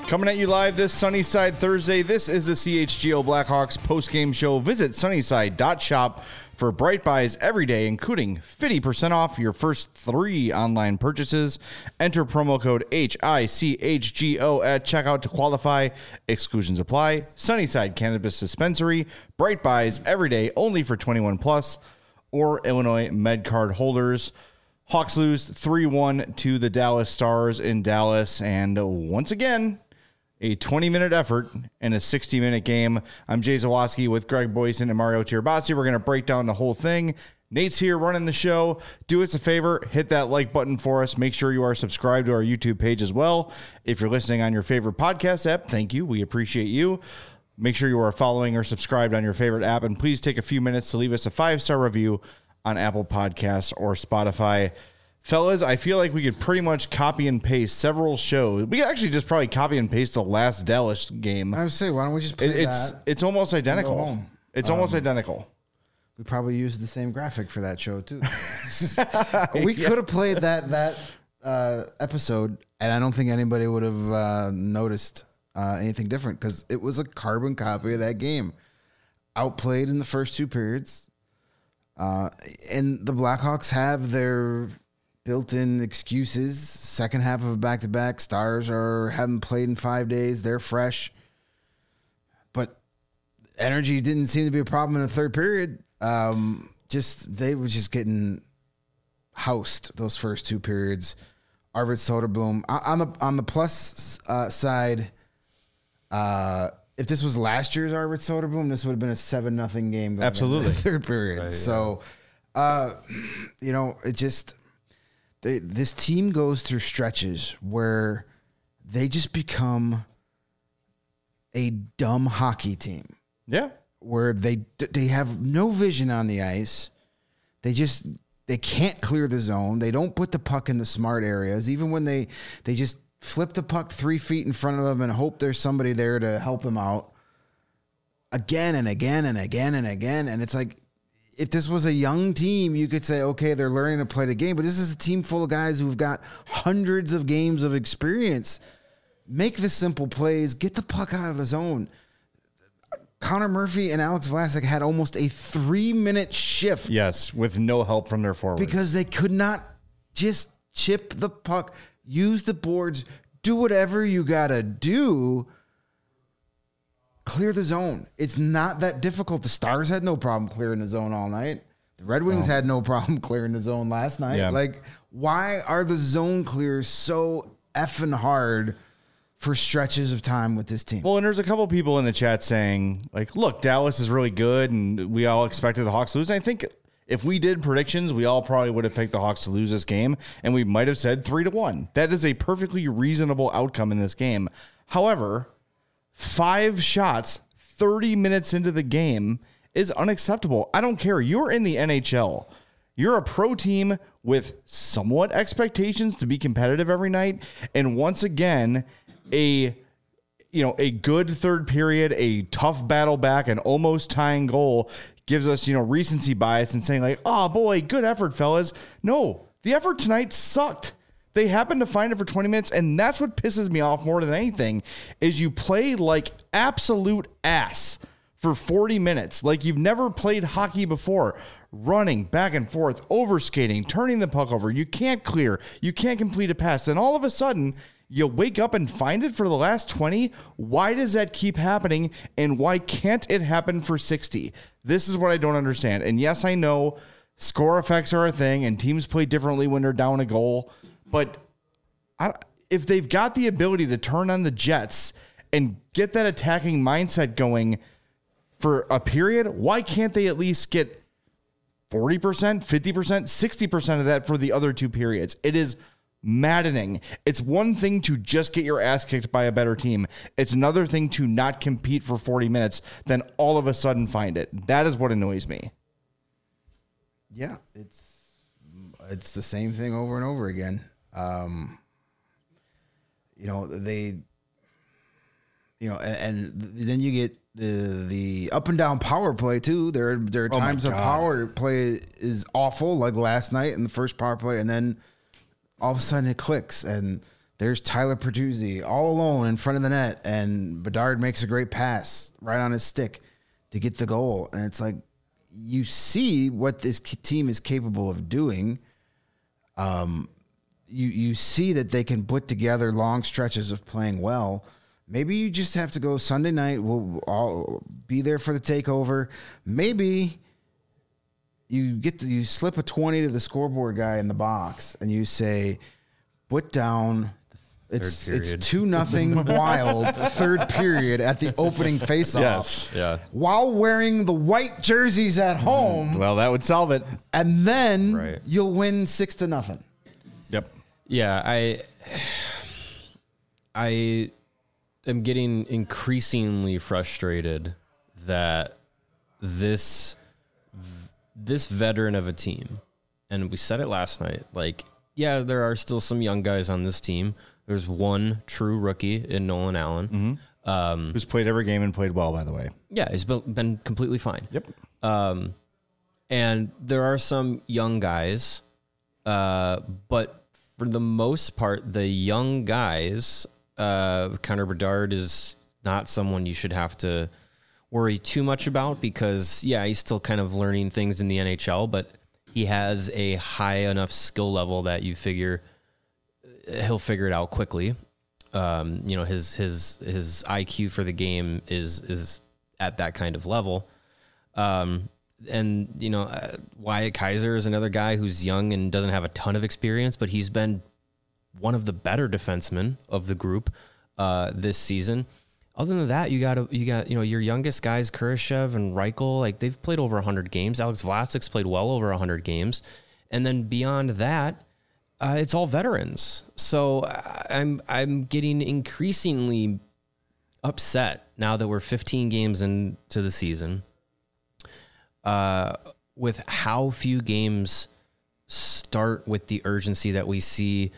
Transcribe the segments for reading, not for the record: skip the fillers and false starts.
Coming at you live this Sunnyside Thursday. This is the CHGO Blackhawks post-game show. Visit sunnyside.shop for bright buys every day, including 50% off your first 3 online purchases. Enter promo code HICHGO at checkout to qualify. Exclusions apply. Sunnyside Cannabis Dispensary. Bright buys every day, only for 21 plus or Illinois MedCard holders. Hawks lose 3-1 to the Dallas Stars in Dallas. And once again, a 20-minute effort in a 60-minute game. I'm Jay Zawoski with Greg Boyson and Mario Tirabassi. We're going to break down the whole thing. Nate's here running the show. Do us a favor, hit that like button for us. Make sure you are subscribed to our YouTube page as well. If you're listening on your favorite podcast app, thank you. We appreciate you. Make sure you are following or subscribed on your favorite app. And please take a few minutes to leave us a 5-star review on Apple Podcasts or Spotify. Fellas, I feel like we could pretty much copy and paste several shows. We could actually just probably copy and paste the last Dallas game. I would say, why don't we just play that? It's almost identical. It's almost identical. We probably used the same graphic for that show, too. We could have played that episode, and I don't think anybody would have noticed anything different because it was a carbon copy of that game. Outplayed in the first 2 periods. And the Blackhawks have their built-in excuses. Second half of a back-to-back. Stars haven't played in 5 days. They're fresh. But energy didn't seem to be a problem in the third period. They were just getting housed those first 2 periods. Arvid Soderblom. On the plus side, if this was last year's Arvid Soderblom, this would have been a 7-0 game going Absolutely. into the third period. Right, so, it just... This team goes through stretches where they just become a dumb hockey team. Yeah. Where they have no vision on the ice. They can't clear the zone. They don't put the puck in the smart areas. Even when they just flip the puck 3 feet in front of them and hope there's somebody there to help them out. Again and again and again and again. And it's like, if this was a young team, you could say, okay, they're learning to play the game. But this is a team full of guys who've got hundreds of games of experience. Make the simple plays. Get the puck out of the zone. Connor Murphy and Alex Vlasic had almost a 3-minute shift. Yes, with no help from their forwards. Because they could not just chip the puck, use the boards, do whatever you got to do. Clear the zone. It's not that difficult. The Stars had no problem clearing the zone all night. The Red Wings had no problem clearing the zone last night. Yeah. Like, why are the zone clears so effing hard for stretches of time with this team? Well, and there's a couple people in the chat saying, like, look, Dallas is really good, and we all expected the Hawks to lose. And I think if we did predictions, we all probably would have picked the Hawks to lose this game, and we might have said 3-1. That is a perfectly reasonable outcome in this game. However, 5 shots 30 minutes into the game is unacceptable. I don't care. You're in the NHL. You're a pro team with somewhat expectations to be competitive every night. And once again, a good third period, a tough battle back, an almost tying goal gives us, recency bias and saying like, oh boy, good effort, fellas. No, the effort tonight sucked. They happened to find it for 20 minutes, and that's what pisses me off more than anything is you play like absolute ass for 40 minutes, like you've never played hockey before, running back and forth, overskating, turning the puck over. You can't clear. You can't complete a pass. And all of a sudden, you wake up and find it for the last 20. Why does that keep happening, and why can't it happen for 60? This is what I don't understand. And yes, I know score effects are a thing, and teams play differently when they're down a goal. But if they've got the ability to turn on the Jets and get that attacking mindset going for a period, why can't they at least get 40%, 50%, 60% of that for the other 2 periods? It is maddening. It's one thing to just get your ass kicked by a better team. It's another thing to not compete for 40 minutes, then all of a sudden find it. That is what annoys me. Yeah, it's the same thing over and over again. And then you get the up and down power play too. There are times the power play is awful, like last night in the first power play, and then all of a sudden it clicks and there's Tyler Pertuzzi all alone in front of the net, and Bedard makes a great pass right on his stick to get the goal. And it's like, you see what this team is capable of doing. You see that they can put together long stretches of playing well. Maybe you just have to go Sunday night. We'll all be there for the takeover. Maybe you slip a 20 to the scoreboard guy in the box and you say, put down. It's 2-0 Wild, third period at the opening faceoff. Yes. Yeah. While wearing the white jerseys at home. Well, that would solve it. And then you'll win 6-0. Yep. Yeah, I am getting increasingly frustrated that this veteran of a team, and we said it last night, like, yeah, there are still some young guys on this team. There's one true rookie in Nolan Allen. Who's played every game and played well, by the way. Yeah, he's been completely fine. Yep. And there are some young guys, but for the most part, the young guys, Connor Bedard is not someone you should have to worry too much about because, yeah, he's still kind of learning things in the NHL, but he has a high enough skill level that you figure he'll figure it out quickly. His IQ for the game is at that kind of level. Wyatt Kaiser is another guy who's young and doesn't have a ton of experience, but he's been one of the better defensemen of the group this season. Other than that, you got your youngest guys, Kurashev and Reichel, like they've played over 100 games. Alex Vlasic's played well over 100 games, and then beyond that, it's all veterans. So I'm getting increasingly upset now that we're 15 games into the season. With how few games start with the urgency that we see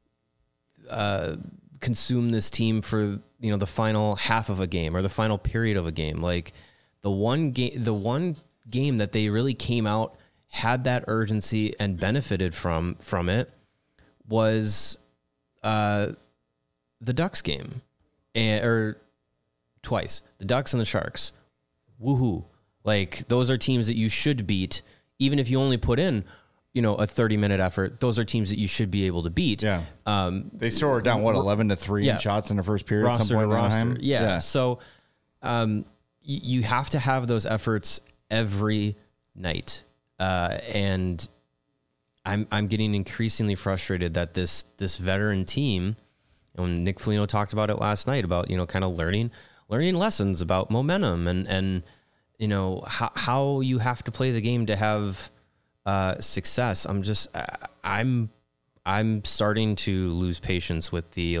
consume this team for the final half of a game or the final period of a game. Like the one game that they really came out, had that urgency and benefited from it was the Ducks game, or twice, the Ducks and the Sharks. Woohoo! Like those are teams that you should beat, even if you only put in, a 30-minute effort. Those are teams that you should be able to beat. Yeah. They scored down 11-3 in shots in the first period. At some point in time. Yeah. So, you have to have those efforts every night, and I'm getting increasingly frustrated that this veteran team, and Nick Foligno talked about it last night about kind of learning lessons about momentum and how you have to play the game to have success. I'm starting to lose patience with the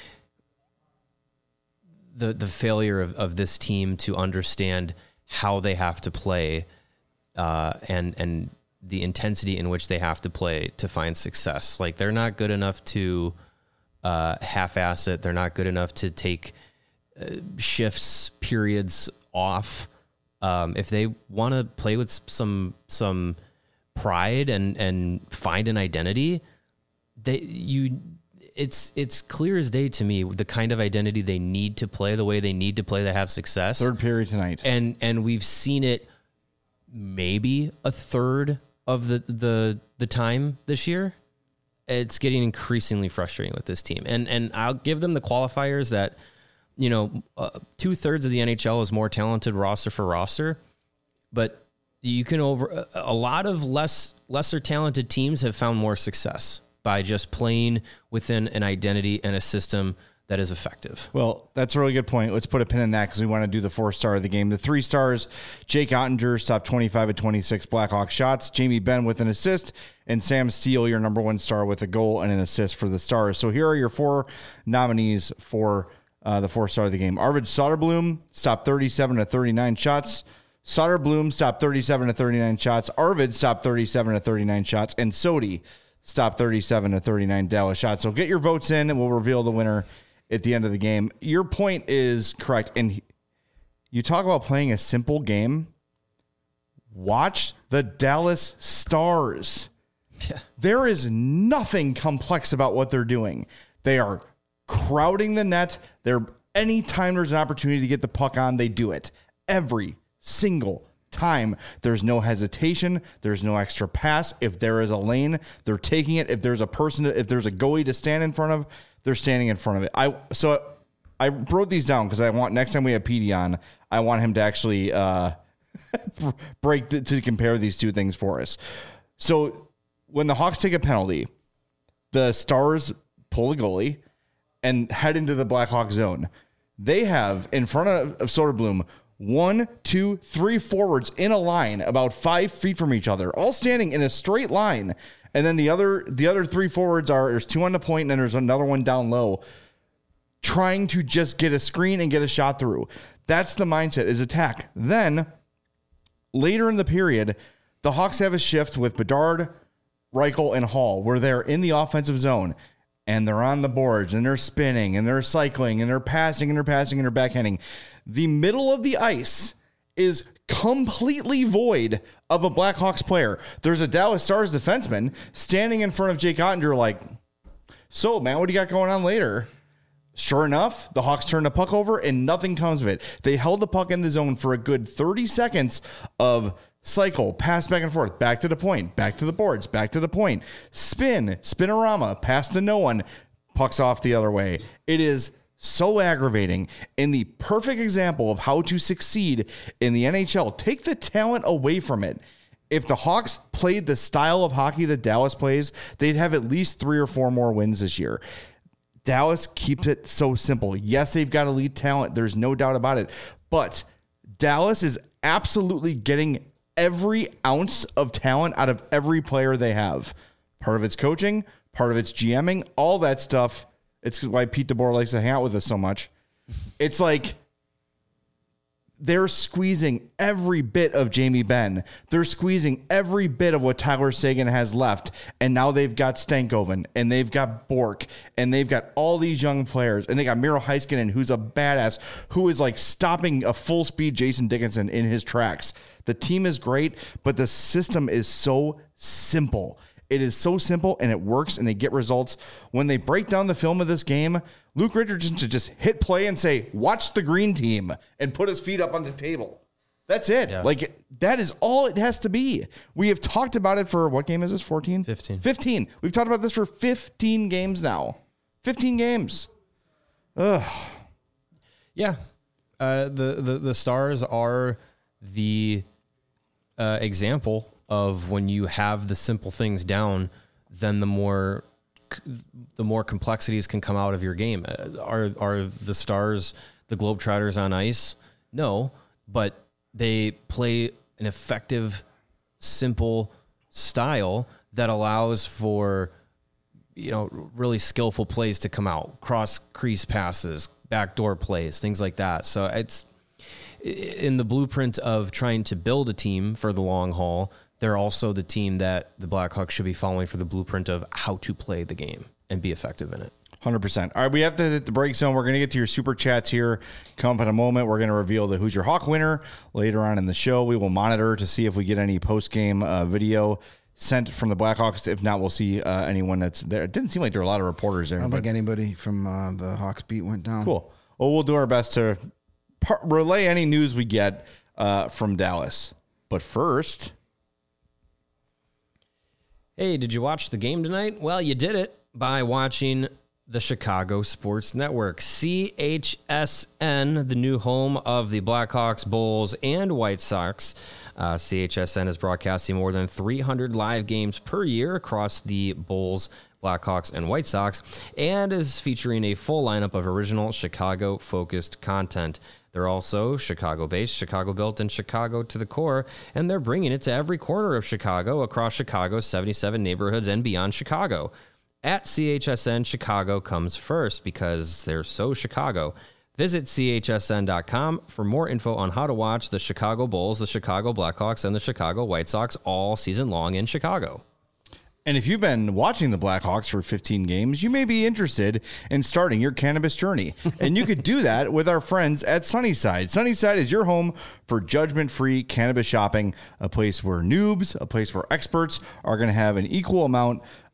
failure of this team to understand how they have to play and the intensity in which they have to play to find success. Like they're not good enough to half-ass it. They're not good enough to take shifts, periods off. If they want to play with some pride and find an identity, it's clear as day to me the kind of identity they need to play, the way they need to play to have success. Third period tonight, and we've seen it maybe a third of the time this year. It's getting increasingly frustrating with this team, and I'll give them the qualifiers that 2/3 of the NHL is more talented roster for roster, but you can a lot of lesser talented teams have found more success by just playing within an identity and a system that is effective. Well, that's a really good point. Let's put a pin in that because we want to do the 4-star of the game. The 3 stars, Jake Ottinger, stopped 25 of 26 Blackhawk shots. Jamie Benn with an assist. And Sam Steele, your number 1 star, with a goal and an assist for the Stars. So here are your 4 nominees for the 4-star of the game. Arvid Soderblom stopped 37 of 39 shots. Soderblom stopped 37 of 39 shots. Arvid stopped 37 of 39 shots. And Sodi stopped 37 of 39 Dallas shots. So get your votes in and we'll reveal the winner at the end of the game. Your point is correct. And you talk about playing a simple game. Watch the Dallas Stars. Yeah. There is nothing complex about what they're doing. They are crowding the net. Anytime there's an opportunity to get the puck on, they do it. Every single time. There's no hesitation. There's no extra pass. If there is a lane, they're taking it. If there's a goalie to stand in front of, they're standing in front of it. So I wrote these down because I want, next time we have PD on, I want him to actually to compare these two things for us. So when the Hawks take a penalty, the Stars pull the goalie and head into the Blackhawks zone. They have in front of Soderblom 1, 2, 3 forwards in a line about 5 feet from each other, all standing in a straight line. And then the other 3 forwards there's 2 on the point, and then there's another one down low, trying to just get a screen and get a shot through. That's the mindset, is attack. Then later in the period, the Hawks have a shift with Bedard, Reichel, and Hall, where they're in the offensive zone. And they're on the boards, and they're spinning, and they're cycling, and they're passing, and they're backhanding. The middle of the ice is completely void of a Blackhawks player. There's a Dallas Stars defenseman standing in front of Jake Ottinger like, so, man, what do you got going on later? Sure enough, the Hawks turn the puck over, and nothing comes of it. They held the puck in the zone for a good 30 seconds of cycle, pass back and forth, back to the point, back to the boards, back to the point, spinorama, pass to no one, pucks off the other way. It is so aggravating, and the perfect example of how to succeed in the NHL. Take the talent away from it. If the Hawks played the style of hockey that Dallas plays, they'd have at least 3 or 4 more wins this year. Dallas keeps it so simple. Yes, they've got elite talent. There's no doubt about it. But Dallas is absolutely getting every ounce of talent out of every player they have. Part of it's coaching, part of it's GMing, all that stuff. It's why Pete DeBoer likes to hang out with us so much. It's like they're squeezing every bit of Jamie Benn. They're squeezing every bit of what Tyler Seguin has left. And now they've got Stankoven, and they've got Bork, and they've got all these young players. And they got Miro Heiskanen, who's a badass, who is like stopping a full speed Jason Dickinson in his tracks. The team is great, but the system is so simple. It is so simple, and it works, and they get results. When they break down the film of this game, Luke Richardson should just hit play and say, watch the green team, and put his feet up on the table. That's it. Yeah. Like, that is all it has to be. We have talked about it for, what game is this, 14? 15. We've talked about this for 15 games now. 15 games. Ugh. Yeah. The Stars are the example of when you have the simple things down, then the more complexities can come out of your game. Are the Stars the Globetrotters on ice? No, but they play an effective, simple style that allows for, really skillful plays to come out, cross crease passes, backdoor plays, things like that. So it's in the blueprint of trying to build a team for the long haul. They're also the team that the Blackhawks should be following for the blueprint of how to play the game and be effective in it. 100%. All right, we have to hit the break zone. We're going to get to your super chats here. Come up in a moment. We're going to reveal the Who's Your Hawk winner later on in the show. We will monitor to see if we get any post-game video sent from the Blackhawks. If not, we'll see anyone that's there. It didn't seem like there were a lot of reporters there. I don't think anybody from the Hawks beat went down. Cool. Well, we'll do our best to relay any news we get from Dallas. But first... Hey, did you watch the game tonight? Well, you did it by watching the Chicago Sports Network. CHSN, the new home of the Blackhawks, Bulls, and White Sox. CHSN is broadcasting more than 300 live games per year across the Bulls, Blackhawks, and White Sox, and is featuring a full lineup of original Chicago-focused content. They're also Chicago-based, Chicago-built, and Chicago to the core, and they're bringing it to every corner of Chicago, across Chicago's 77 neighborhoods and beyond Chicago. At CHSN, Chicago comes first because they're so Chicago. Visit CHSN.com for more info on how to watch the Chicago Bulls, the Chicago Blackhawks, and the Chicago White Sox all season long in Chicago. And if you've been watching the Blackhawks for 15 games, you may be interested in starting your cannabis journey. And you could do that with our friends at Sunnyside. Sunnyside is your home for judgment-free cannabis shopping, a place where noobs, a place where experts are going to have an equal amount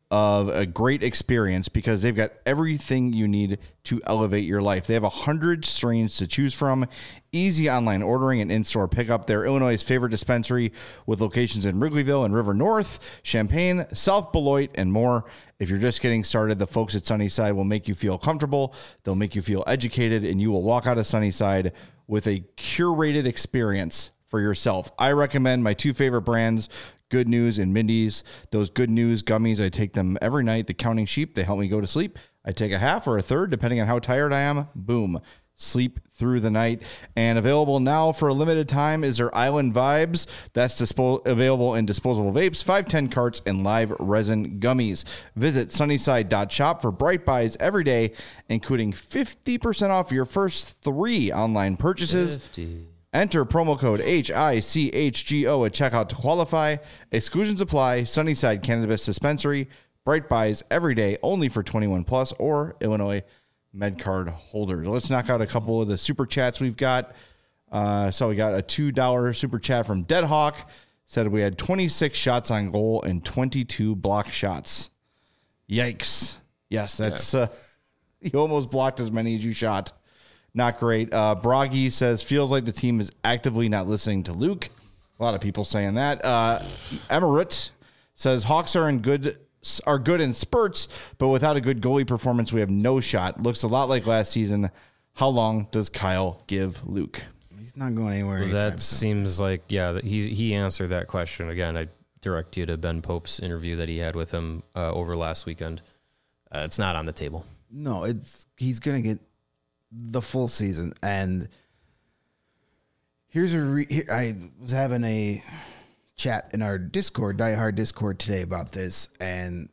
of a great experience because they've got everything you need to elevate your life. They have 100 strains to choose from, easy online ordering and in-store pickup. They're Illinois' favorite dispensary with locations in Wrigleyville and River North, Champaign, South Beloit, and more. If you're just getting started, the folks at Sunnyside will make you feel comfortable. They'll make you feel educated, and you will walk out of Sunnyside with a curated experience for yourself. I recommend my two favorite brands, Good News and Mindy's. Those Good News gummies, I take them every night. The Counting Sheep, they help me go to sleep. I take a half or a third, depending on how tired I am. Boom. Sleep through the night. And available now for a limited time is their Island Vibes. That's available in disposable vapes, 510 carts, and live resin gummies. Visit sunnyside.shop for bright buys every day, including 50% off your first 3 online purchases. 50. Enter promo code HICHGO at checkout to qualify. Exclusions apply. Sunnyside Cannabis Dispensary. Bright buys every day, only for 21 plus or Illinois MedCard holders. Let's knock out a couple of the super chats we've got. So we got a $2 super chat from Deadhawk. Said we had 26 shots on goal and 22 block shots. Yikes. Yes, that's you almost blocked as many as you shot. Not great. Bragi says, feels like the team is actively not listening to Luke. A lot of people saying that. Emerit says, Hawks are good in spurts, but without a good goalie performance, we have no shot. Looks a lot like last season. How long does Kyle give Luke? He's not going anywhere. Well, that seems like, he answered that question. Again, I direct you to Ben Pope's interview that he had with him over last weekend. It's not on the table. No, he's going to get the full season. And here's I was having a chat in our Discord, Die Hard Discord today about this, and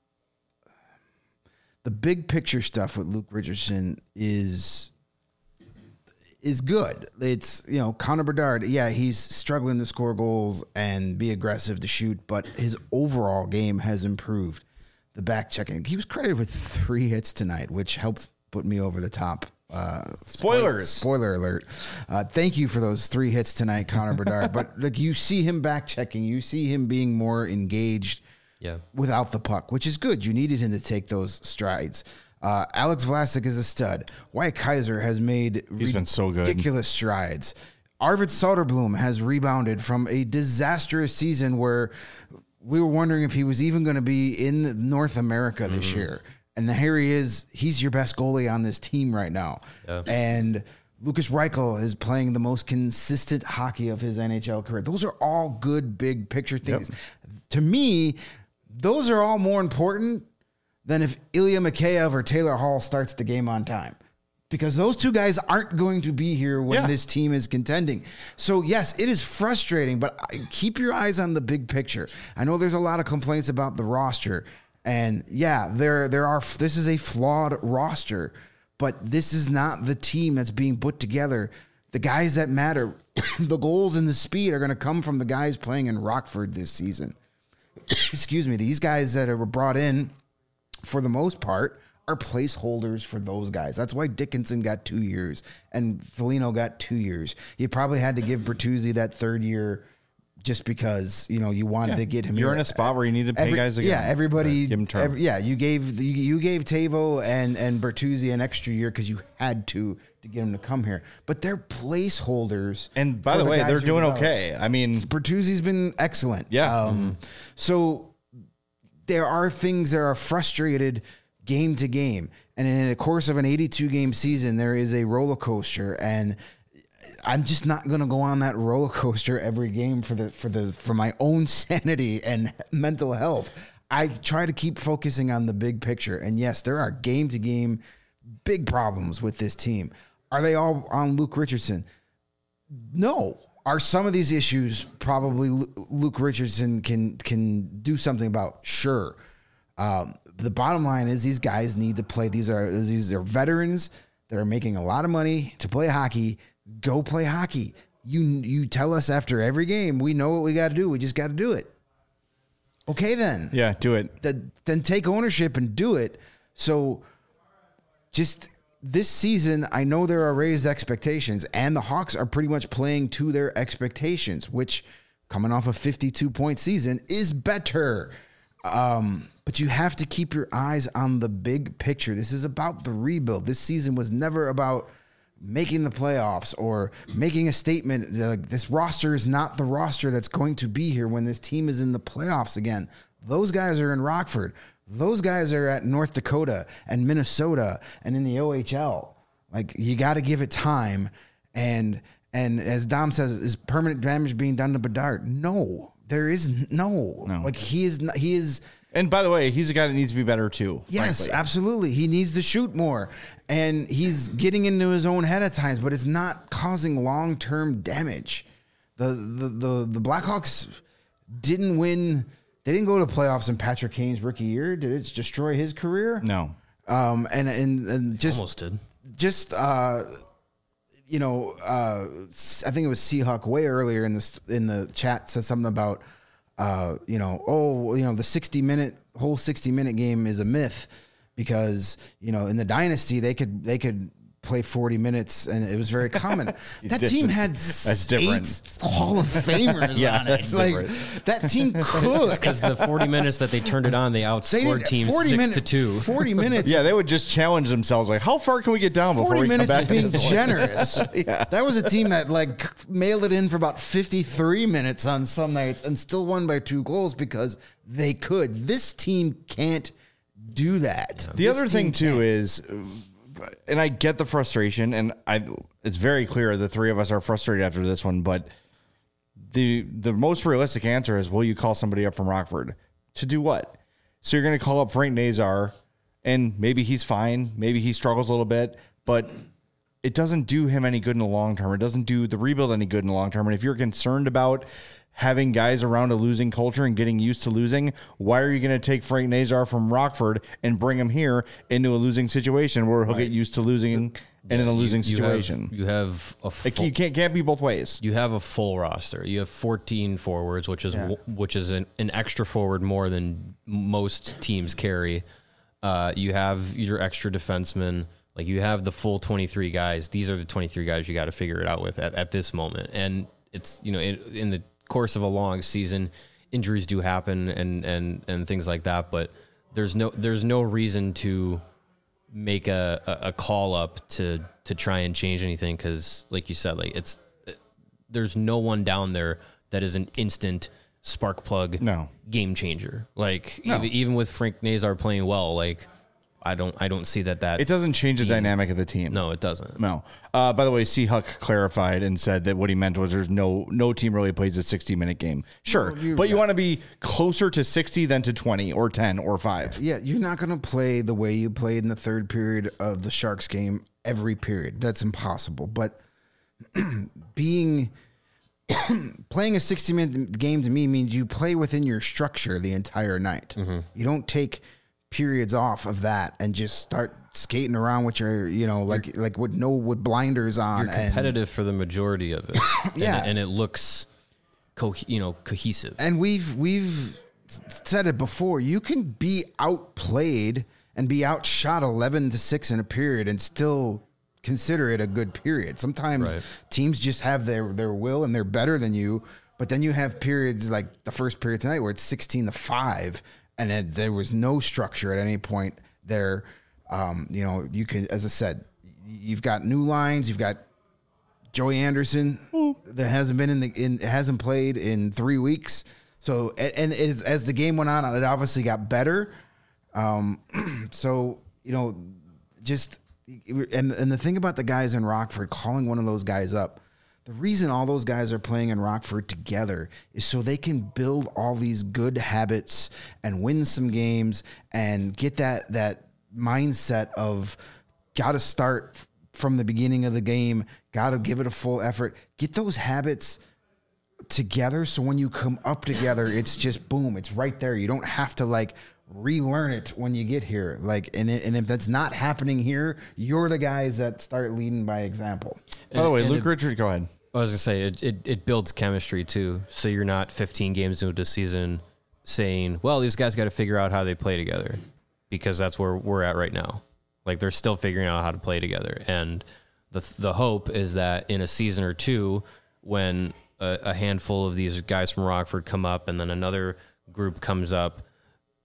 the big picture stuff with Luke Richardson is good. It's, Connor Bedard, he's struggling to score goals and be aggressive to shoot, but his overall game has improved. The back checking, he was credited with 3 hits tonight, which helped put me over the top. Spoiler alert. Thank you for those 3 hits tonight, Connor Bedard. But you see him back checking, you see him being more engaged without the puck, which is good. You needed him to take those strides. Alex Vlasic is a stud. Wyatt Kaiser has made been so good. Ridiculous strides. Arvid Soderblom has rebounded from a disastrous season where we were wondering if he was even going to be in North America this year. And here he is. He's your best goalie on this team right now. Yeah. And Lucas Reichel is playing the most consistent hockey of his NHL career. Those are all good big picture things. Yep. To me, those are all more important than if Ilya Mikheyev or Taylor Hall starts the game on time. Because those 2 guys aren't going to be here when this team is contending. So, yes, it is frustrating, but keep your eyes on the big picture. I know there's a lot of complaints about the roster. And there are. This is a flawed roster, but this is not the team that's being put together. The guys that matter, the goals and the speed are going to come from the guys playing in Rockford this season. Excuse me. These guys that were brought in, for the most part, are placeholders for those guys. That's why Dickinson got 2 years and Foligno got 2 years. You probably had to give Bertuzzi that 3rd year. Just because, you wanted to get him. You're in a spot where you need to pay guys again. Yeah, everybody. Give him term. You gave Tavo and Bertuzzi an extra year because you had to get him to come here. But they're placeholders. And by the way, they're doing okay. I mean, Bertuzzi's been excellent. Yeah. So there are things that are frustrated game to game. And in the course of an 82-game season, there is a roller coaster. And I'm just not going to go on that roller coaster every game for my own sanity and mental health. I try to keep focusing on the big picture. And yes, there are game to game big problems with this team. Are they all on Luke Richardson? No. Are some of these issues probably Luke Richardson can do something about? Sure. The bottom line is these guys need to play. These are veterans that are making a lot of money to play hockey. Go play hockey. You tell us after every game, we know what we got to do. We just got to do it. Okay, then. Yeah, do it. Then take ownership and do it. So just this season, I know there are raised expectations, and the Hawks are pretty much playing to their expectations, which coming off a 52-point season is better. But you have to keep your eyes on the big picture. This is about the rebuild. This season was never about making the playoffs or making a statement. Like, this roster is not the roster that's going to be here when this team is in the playoffs again. Those guys are in Rockford. Those guys are at North Dakota and Minnesota and in the OHL. Like, you got to give it time. And as Dom says, is permanent damage being done to Bedard? No, there is no. Like, he is. And by the way, he's a guy that needs to be better too. Yes, frankly. absolutely. He needs to shoot more, and he's getting into his own head at times, but it's not causing long-term damage. The Blackhawks didn't win. They didn't go to playoffs in Patrick Kane's rookie year. Did it destroy his career? No. And just Almost did. Just I think it was Seahawk way earlier in the chat said something about the whole 60-minute game is a myth because in the dynasty they could play 40 minutes and it was very common. That team had That's different. 8 Hall of Famers on it. That's Like, that team could. Because the 40 minutes that they turned it on, they outscored teams 6-2. 40 minutes. Yeah, they would just challenge themselves. Like, how far can we get down before 40 we come minutes back? is being to this one? generous. That was a team that mailed it in for about 53 minutes on some nights and still won by 2 goals because they could. This team can't do that. The other thing too is, and I get the frustration, and it's very clear the three of us are frustrated after this one, but the most realistic answer is, will you call somebody up from Rockford to do what? So you're going to call up Frank Nazar, and maybe he's fine, maybe he struggles a little bit, but it doesn't do him any good in the long term. It doesn't do the rebuild any good in the long term. And if you're concerned about having guys around a losing culture and getting used to losing, why are you going to take Frank Nazar from Rockford and bring him here into a losing situation where he'll get used to losing and in a losing situation? You have a full, You can't be both ways. you have a full roster. You have 14 forwards, which is an extra forward more than most teams carry. You have your extra defensemen. Like, you have the full 23 guys. These are the 23 guys you got to figure it out with at this moment. And it's, in the course of a long season, injuries do happen and things like that, but there's no reason to make a call up to try and change anything, because like you said, like, there's no one down there that is an instant spark plug game changer. Like, even with Frank Nazar playing well, like, I don't see that it doesn't change the dynamic of the team. No, it doesn't. No. By the way, Seahawk clarified and said that what he meant was there's no team really plays a 60-minute game. Sure, but you want to be closer to 60 than to 20 or 10 or 5. Yeah, you're not going to play the way you played in the third period of the Sharks game every period. That's impossible. But playing a 60-minute game to me means you play within your structure the entire night. Mm-hmm. You don't take periods off of that and just start skating around with your, with blinders on. You're competitive for the majority of it. Yeah. And it looks cohesive. And we've said it before. You can be outplayed and be outshot 11-6 in a period and still consider it a good period. Sometimes teams just have their will and they're better than you, but then you have periods like the first period tonight where it's 16-5 and there was no structure at any point there. You can, as I said, you've got new lines. You've got Joey Anderson that hasn't played in 3 weeks. So, and as the game went on, it obviously got better. And the thing about the guys in Rockford, calling one of those guys up, the reason all those guys are playing in Rockford together is so they can build all these good habits and win some games and get that mindset of got to start from the beginning of the game, got to give it a full effort, get those habits together. So when you come up together, it's just boom, it's right there. You don't have to relearn it when you get here. And if that's not happening here, you're the guys that start leading by example. By the way, Luke Richard, go ahead. I was gonna say it builds chemistry too. So you're not 15 games into the season saying, well, these guys got to figure out how they play together, because that's where we're at right now. Like, they're still figuring out how to play together. And the hope is that in a season or two, when a handful of these guys from Rockford come up and then another group comes up,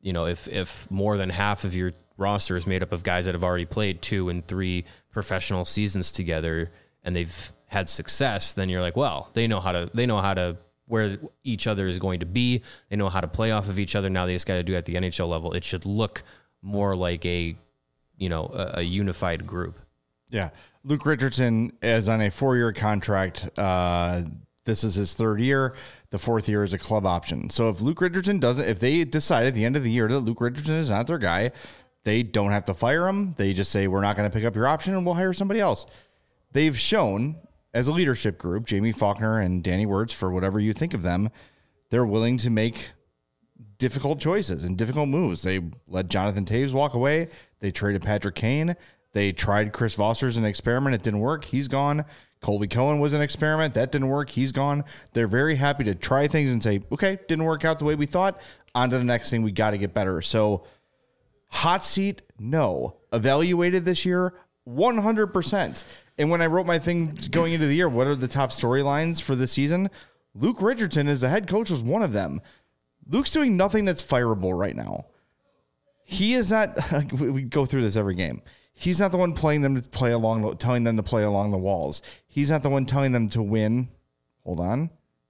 if more than half of your roster is made up of guys that have already played 2 and 3 professional seasons together and they've had success, then you're like, well, they know how to where each other is going to be. They know how to play off of each other. Now they just got to do it at the NHL level. It should look more like a unified group. Yeah. Luke Richardson is on a 4-year contract. This is his 3rd year. The 4th year is a club option. So if Luke Richardson if they decide at the end of the year that Luke Richardson is not their guy, they don't have to fire him. They just say, we're not going to pick up your option and we'll hire somebody else. They've shown as a leadership group, Jamie Faulkner and Danny Wirtz, for whatever you think of them, they're willing to make difficult choices and difficult moves. They let Jonathan Toews walk away. They traded Patrick Kane. They tried Chris Vossers as an experiment. It didn't work. He's gone. Colby Cohen was an experiment. That didn't work. He's gone. They're very happy to try things and say, okay, didn't work out the way we thought. On to the next thing. We got to get better. So hot seat, no. Evaluated this year, 100%. And when I wrote my thing going into the year, what are the top storylines for the season? Luke Richardson as the head coach was one of them. Luke's doing nothing that's fireable right now. He is not, we go through this every game. He's not the one telling them to play along the walls. He's not the one telling them to win. Hold on.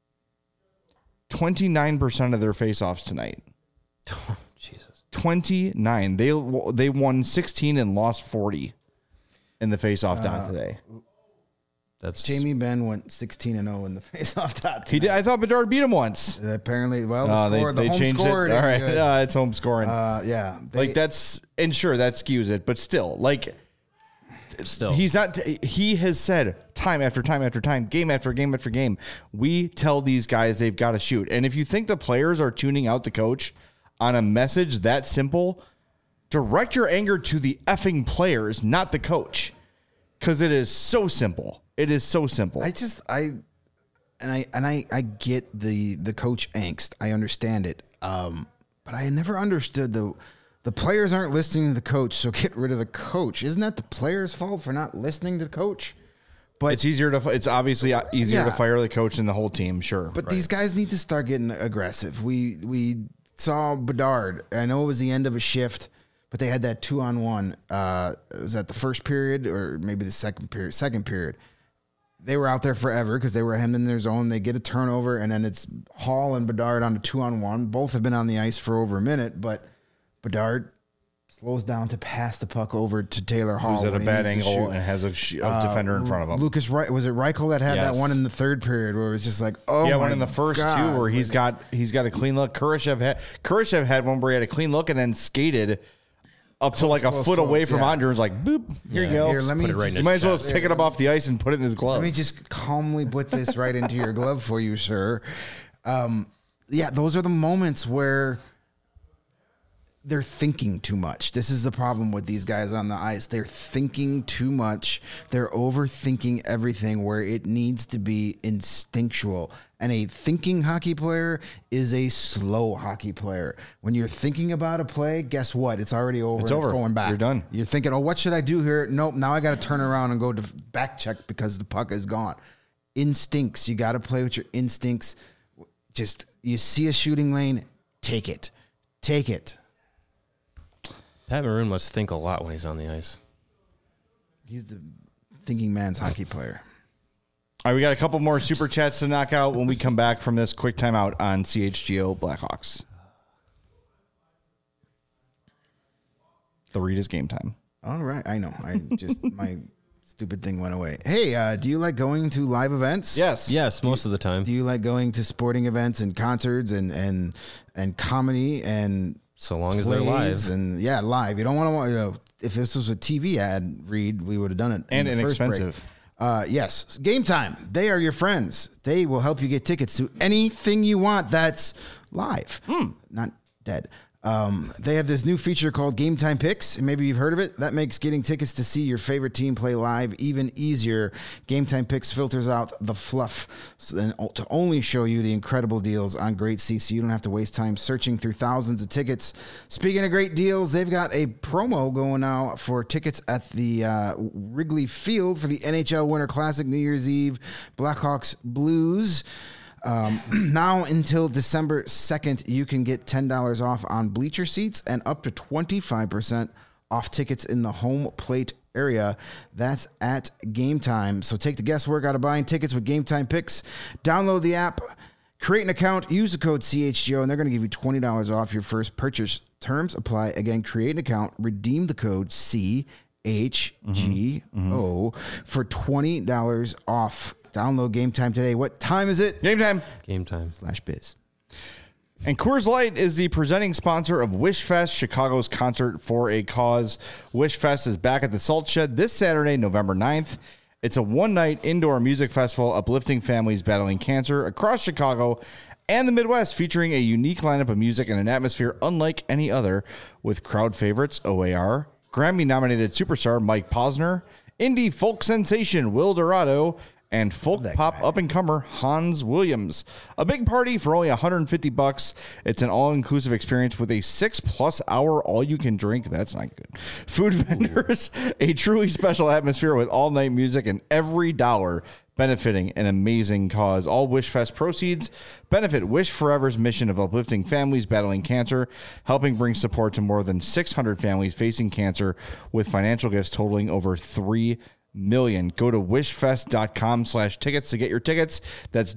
29% of their faceoffs tonight. Oh, Jesus. 29. They won 16 and lost 40 in the faceoff dot today. That's Jamie Benn went 16-0 in the faceoff dot. He did. I thought Bedard beat him once. Apparently, well, the home changed scored. It. All right, it's home scoring. Yeah, that skews it, but still, he's not. He has said time after time after time, game after game after game, we tell these guys they've got to shoot. And if you think the players are tuning out the coach on a message that simple, direct your anger to the effing players, not the coach, because it is so simple. It is so simple. I get the coach angst. I understand it. But I never understood the players aren't listening to the coach, so get rid of the coach. Isn't that the players' fault for not listening to the coach? But it's obviously easier to fire the coach than the whole team, sure. But these guys need to start getting aggressive. We saw Bedard. I know it was the end of a shift, but they had that 2-on-1. Was that the first period or maybe the second period? They were out there forever because they were hemmed in their zone. They get a turnover, and then it's Hall and Bedard on a 2-on-1. Both have been on the ice for over a minute, but Bedard slows down to pass the puck over to Taylor Hall. Who's at a bad angle and has a defender in front of him. Lucas Wright, was it Reichel that had that one in the 3rd period where it was just like, oh, yeah, one in the first two where he's got a clean look. Kurashev had one where he had a clean look and then skated up to a foot away from Andre. Was like, boop, here you go. Here, let me you might as well just pick it up off the ice and put it in his glove. Let me just calmly put this right into your glove for you, sir. Those are the moments where they're thinking too much. This is the problem with these guys on the ice. They're thinking too much. They're overthinking everything where it needs to be instinctual. And a thinking hockey player is a slow hockey player. When you're thinking about a play, guess what? It's already over. It's going back. You're done. You're thinking, what should I do here? Nope, now I got to turn around and go to back check because the puck is gone. Instincts. You got to play with your instincts. Just, you see a shooting lane, take it. Take it. Pat Maroon must think a lot when he's on the ice. He's the thinking man's hockey player. All right, we got a couple more super chats to knock out when we come back from this quick timeout on CHGO Blackhawks. The read is game time. All right, I know. My stupid thing went away. Hey, do you like going to live events? Yes, most of the time. Do you like going to sporting events and concerts and comedy and so long as they're live? And live. You don't want to. If this was a TV ad read, we would have done it. And inexpensive. Yes. Game Time. They are your friends. They will help you get tickets to anything you want that's live, not dead. They have this new feature called Game Time Picks. Maybe you've heard of it. That makes getting tickets to see your favorite team play live even easier. Game Time Picks filters out the fluff to only show you the incredible deals on great seats, so you don't have to waste time searching through thousands of tickets. Speaking of great deals, they've got a promo going now for tickets at the Wrigley Field for the NHL Winter Classic New Year's Eve, Blackhawks Blues. Now until December 2nd, you can get $10 off on bleacher seats and up to 25% off tickets in the home plate area. That's at Game Time. So take the guesswork out of buying tickets with Game Time Picks. Download the app, create an account, use the code CHGO, and they're going to give you $20 off your first purchase. Terms apply. Again, create an account, redeem the code CHGO for $20 off. Download Game Time today. What time is it? Game time. Game time. /biz. And Coors Light is the presenting sponsor of WishFest, Chicago's concert for a cause. WishFest is back at the Salt Shed this Saturday, November 9th. It's a one-night indoor music festival uplifting families battling cancer across Chicago and the Midwest, featuring a unique lineup of music and an atmosphere unlike any other, with crowd favorites OAR, Grammy-nominated superstar Mike Posner, indie folk sensation Will Dorado, and folk pop up-and-comer Hans Williams. A big party for only $150. It's an all-inclusive experience with a 6+ hour all-you-can-drink. That's not good. Food vendors, a truly special atmosphere with all-night music, and every dollar benefiting an amazing cause. All WishFest proceeds benefit Wish Forever's mission of uplifting families battling cancer, helping bring support to more than 600 families facing cancer, with financial gifts totaling over $3 million. Go to wishfest.com/tickets to get your tickets. That's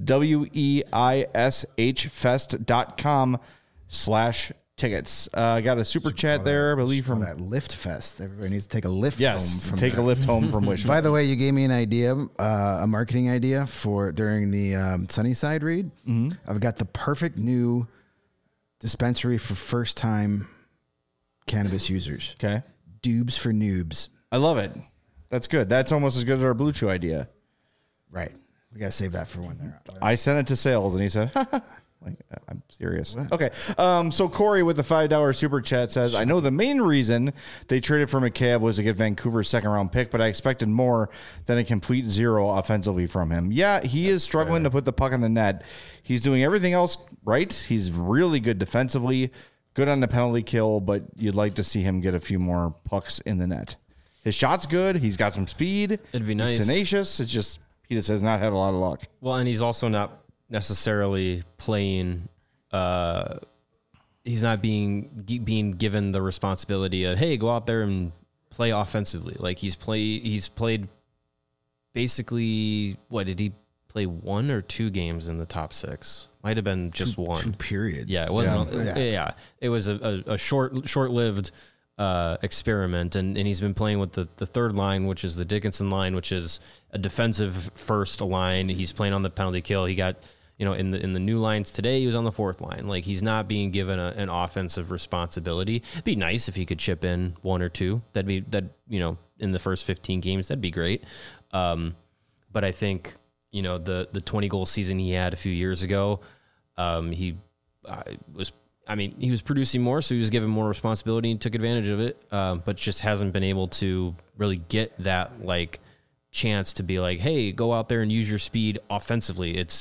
WEISHfest.com/tickets. I got a super chat there, I believe, from that Lift Fest. Everybody needs to take a lift home. Yes, From take there. a lift home from Wish. By the way, you gave me an idea, a marketing idea for during the Sunnyside read. Mm-hmm. I've got the perfect new dispensary for first-time cannabis users. Okay. Doobs for noobs. I love it. That's good. That's almost as good as our Blue Chew idea. Right. We got to save that for when they're out. I sent it to sales, and he said, like, I'm serious. What? Okay. So Corey with the $5 super chat says, I know the main reason they traded for McCabe was to get Vancouver's second-round pick, but I expected more than a complete zero offensively from him. Yeah, he is struggling to put the puck in the net. He's doing everything else right. He's really good defensively, good on the penalty kill, but you'd like to see him get a few more pucks in the net. His shot's good. He's got some speed. It'd be nice. He's tenacious. It's just he just has not had a lot of luck. Well, and he's also not necessarily playing. He's not being given the responsibility of, hey, go out there and play offensively. Like he's played basically. What did he play? 1 or 2 games in the top 6? Might have been just one. 2 periods. Yeah, it wasn't. Yeah. It was a short-lived experiment, and he's been playing with the third line, which is the Dickinson line, which is a defensive first line. He's playing on the penalty kill. He got, in the new lines today, he was on the fourth line. Like, he's not being given an offensive responsibility. It'd be nice if he could chip in 1 or 2. In the first 15 games, that'd be great. But I think, the 20 goal season he had a few years ago, he was producing more, so he was given more responsibility and took advantage of it, but just hasn't been able to really get that chance to be like, hey, go out there and use your speed offensively. It's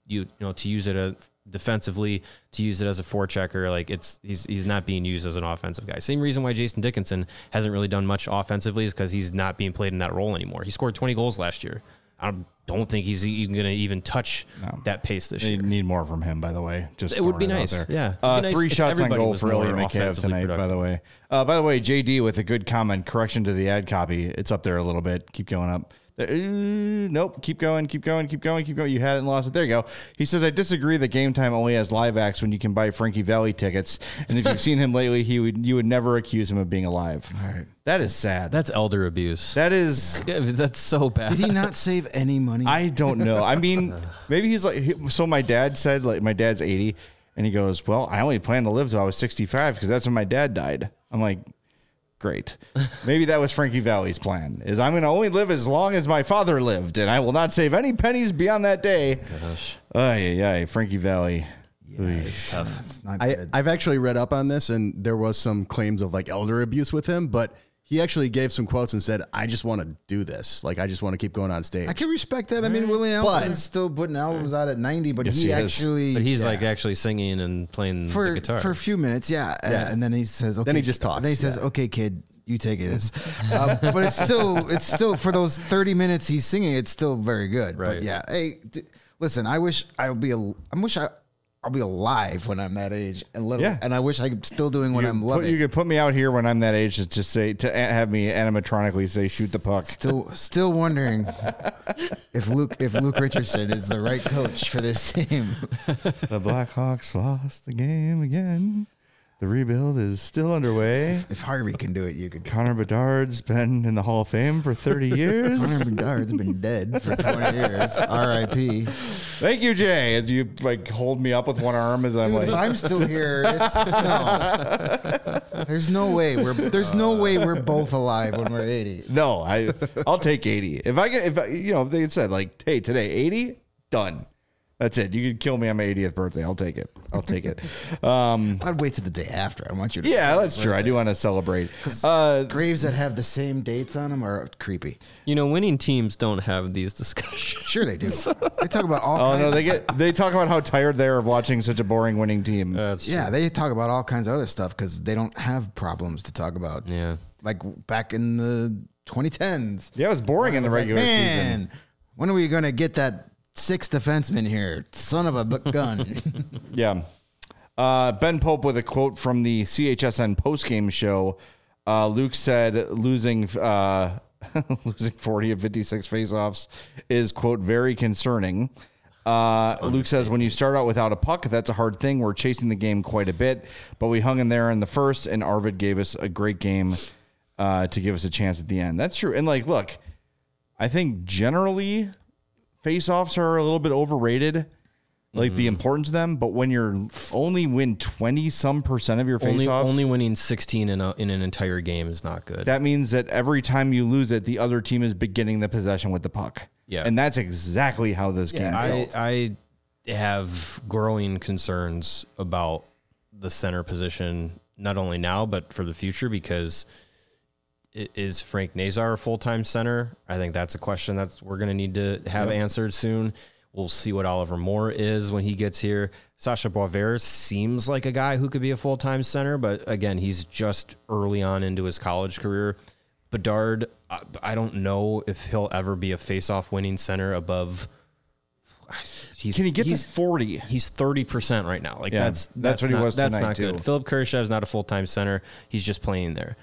to use it defensively, to use it as a forechecker. He's not being used as an offensive guy. Same reason why Jason Dickinson hasn't really done much offensively is because he's not being played in that role anymore. He scored 20 goals last year. I don't think he's even going to even touch that pace this year. They need more from him, by the way. Just it would be nice. There. Yeah. 3 shots on goal for Ilya Mikheyev tonight, by the way. By the way, JD with a good comment, correction to the ad copy. It's up there a little bit. Keep going up. Nope. Keep going. You had it and lost it. There you go. He says, I disagree that Game Time only has live acts when you can buy Frankie Valli tickets. And if you've seen him lately, you would never accuse him of being alive. All right. That is sad. That's elder abuse. That is. Yeah, that's so bad. Did he not save any money? I don't know. I mean, maybe he's so my dad said, my dad's 80, and he goes, well, I only plan to live till I was 65 because that's when my dad died. I'm like, great. Maybe that was Frankie Valli's plan, is I'm going to only live as long as my father lived, and I will not save any pennies beyond that day. Gosh. Frankie Valli. Yeah, it's tough. It's not good. I've actually read up on this, and there was some claims of elder abuse with him, but he actually gave some quotes and said, I just want to do this. I just want to keep going on stage. I can respect that. I mean, Willie Nelson's still putting albums out at 90, but Yes, he actually... But he's actually singing and playing the guitar. For a few minutes, yeah. And then he says, okay. Then he just talks. Then he says, okay, kid, you take it. But it's still, for those 30 minutes he's singing, it's still very good. Right. But yeah, hey, Listen, I wish I'll be alive when I'm that age, and I wish I'm still doing what I'm loving. You could put me out here when I'm that age to have me animatronically say shoot the puck. Still wondering if Luke Richardson is the right coach for this team. The Blackhawks lost the game again. The rebuild is still underway. If Harvey can do it, you could. Connor Bedard's been in the Hall of Fame for 30 years. Connor Bedard's been dead for 20 years. R.I.P. Thank you, Jay. As you hold me up with one arm as I'm Dude, like, if I'm still here, no. There's no way we're both alive when we're 80. no, I'll take 80. If they had said like, hey, today 80, done. That's it. You can kill me on my 80th birthday. I'll take it. I'd wait till the day after. I want you to. Yeah, that's true. I do want to celebrate. Graves that have the same dates on them are creepy. Winning teams don't have these discussions. Sure they do. They talk about all. Oh no, they talk about how tired they are of watching such a boring winning team. Yeah, they talk about all kinds of other stuff because they don't have problems to talk about. Yeah, like back in the 2010s. Yeah, it was boring in the regular season. When are we going to get that 6th defenseman here? Son of a gun. Yeah. Ben Pope with a quote from the CHSN postgame show. Luke said losing 40 of 56 faceoffs is, quote, very concerning. Luke says when you start out without a puck, that's a hard thing. We're chasing the game quite a bit, but we hung in there in the first, and Arvid gave us a great game to give us a chance at the end. That's true. And look, I think generally faceoffs are a little bit overrated, the importance of them. But when you're only win 20% of your faceoffs, only winning 16 in an entire game is not good. That means that every time you lose it, the other team is beginning the possession with the puck. Yeah, and that's exactly how this game. I have growing concerns about the center position, not only now but for the future, because. Is Frank Nazar a full-time center? I think that's a question that we're going to need to have answered soon. We'll see what Oliver Moore is when he gets here. Sasha Boisvert seems like a guy who could be a full-time center, but again, he's just early on into his college career. Bedard, I don't know if he'll ever be a face-off winning center above. Can he get to 40? He's 30% right now. That's what he was That's tonight, not good. too. Philip Kurashev is not a full-time center. He's just playing there.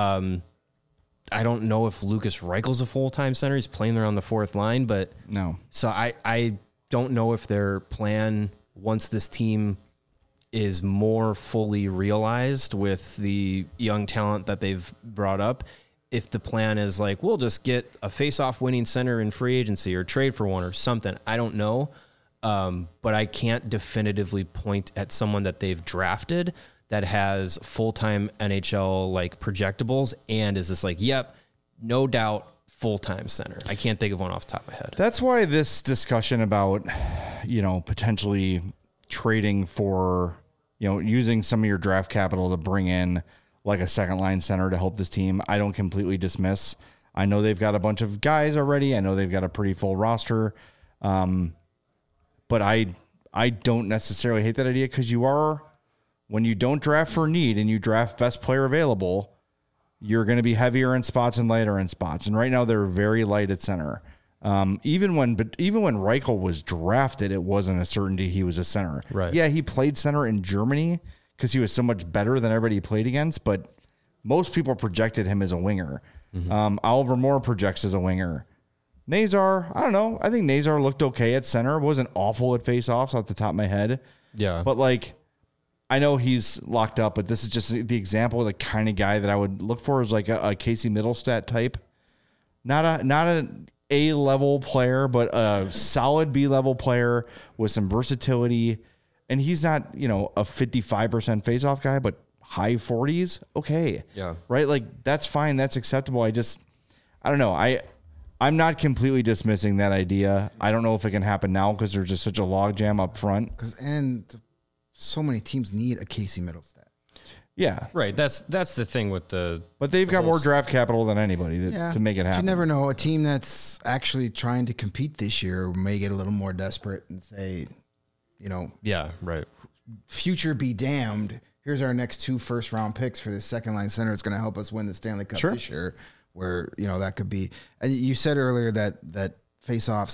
I don't know if Lucas Reichel's a full-time center. He's playing there on the fourth line, but no. So I don't know if their plan, once this team is more fully realized with the young talent that they've brought up, if the plan is we'll just get a face-off winning center in free agency or trade for one or something. I don't know. But I can't definitively point at someone that they've drafted that has full-time NHL projectables and is just yep, no doubt full-time center. I can't think of one off the top of my head. That's why this discussion about, potentially trading for, using some of your draft capital to bring in a second line center to help this team, I don't completely dismiss. I know they've got a bunch of guys already. I know they've got a pretty full roster. But I don't necessarily hate that idea because when you don't draft for need and you draft best player available, you're going to be heavier in spots and lighter in spots. And right now they're very light at center. Even when Reichel was drafted, it wasn't a certainty he was a center. Right. Yeah, he played center in Germany because he was so much better than everybody he played against, but most people projected him as a winger. Oliver Moore projects as a winger. Nazar, I don't know. I think Nazar looked okay at center. Wasn't awful at faceoffs off the top of my head. Yeah. But I know he's locked up, but this is just the example of the kind of guy that I would look for is a Casey Middlestat type. Not an A-level player, but a solid B-level player with some versatility. And he's not, a 55% faceoff guy, but high 40s. Okay. Yeah. Right? That's fine. That's acceptable. I don't know. I'm not completely dismissing that idea. I don't know if it can happen now because there's just such a logjam up front. And so many teams need a Casey Middlestat. Yeah. Right. That's the thing with But they've got more draft capital than anybody to make it happen. You never know. A team that's actually trying to compete this year may get a little more desperate and say, yeah, right. Future be damned. Here's our next 2 first-round picks for the second line center. It's going to help us win the Stanley Cup this year. Where that could be. And you said earlier that faceoffs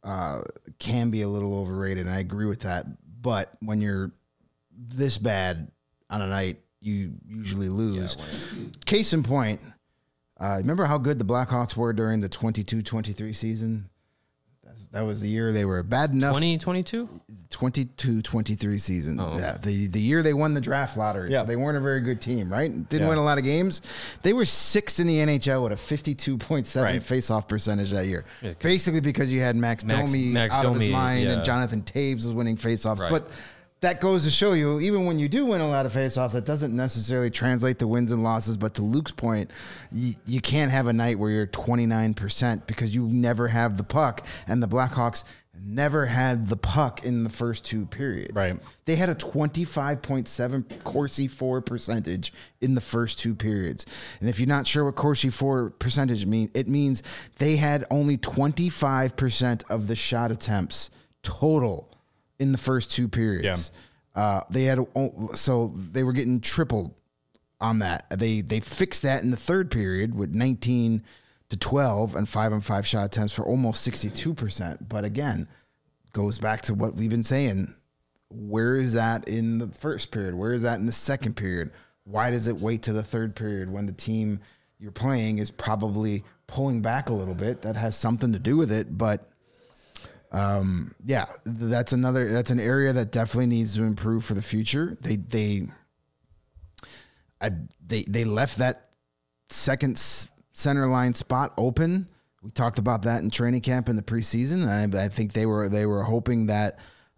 can be a little overrated, and I agree with that. But when you're this bad on a night, you usually lose. Case in point, remember how good the Blackhawks were during the 22-23 season? That was the year they were bad enough. 2022? 22-23 season. Yeah, the year they won the draft lottery. Yeah. So they weren't a very good team, right? Didn't win a lot of games. They were sixth in the NHL with a 52.7 face-off percentage that year. Basically because you had Max Domi out of his mind and Jonathan Taves was winning face-offs. Right. But that goes to show you, even when you do win a lot of faceoffs, that doesn't necessarily translate to wins and losses. But to Luke's point, you can't have a night where you're 29% because you never have the puck. And the Blackhawks never had the puck in the first two periods. Right. They had a 25.7 Corsi 4 percentage in the first two periods. And if you're not sure what Corsi 4 percentage means, it means they had only 25% of the shot attempts total in the first two periods. They had, so they were getting tripled on that. They fixed that in the third period with 19 to 12 and 5-on-5 shot attempts for almost 62%. But again, goes back to what we've been saying. Where is that in the first period? Where is that in the second period? Why does it wait to the third period when the team you're playing is probably pulling back a little bit? That has something to do with it, but that's an area that definitely needs to improve for the future. They left that second center line spot open. We talked about that in training camp in the preseason. I think they were hoping that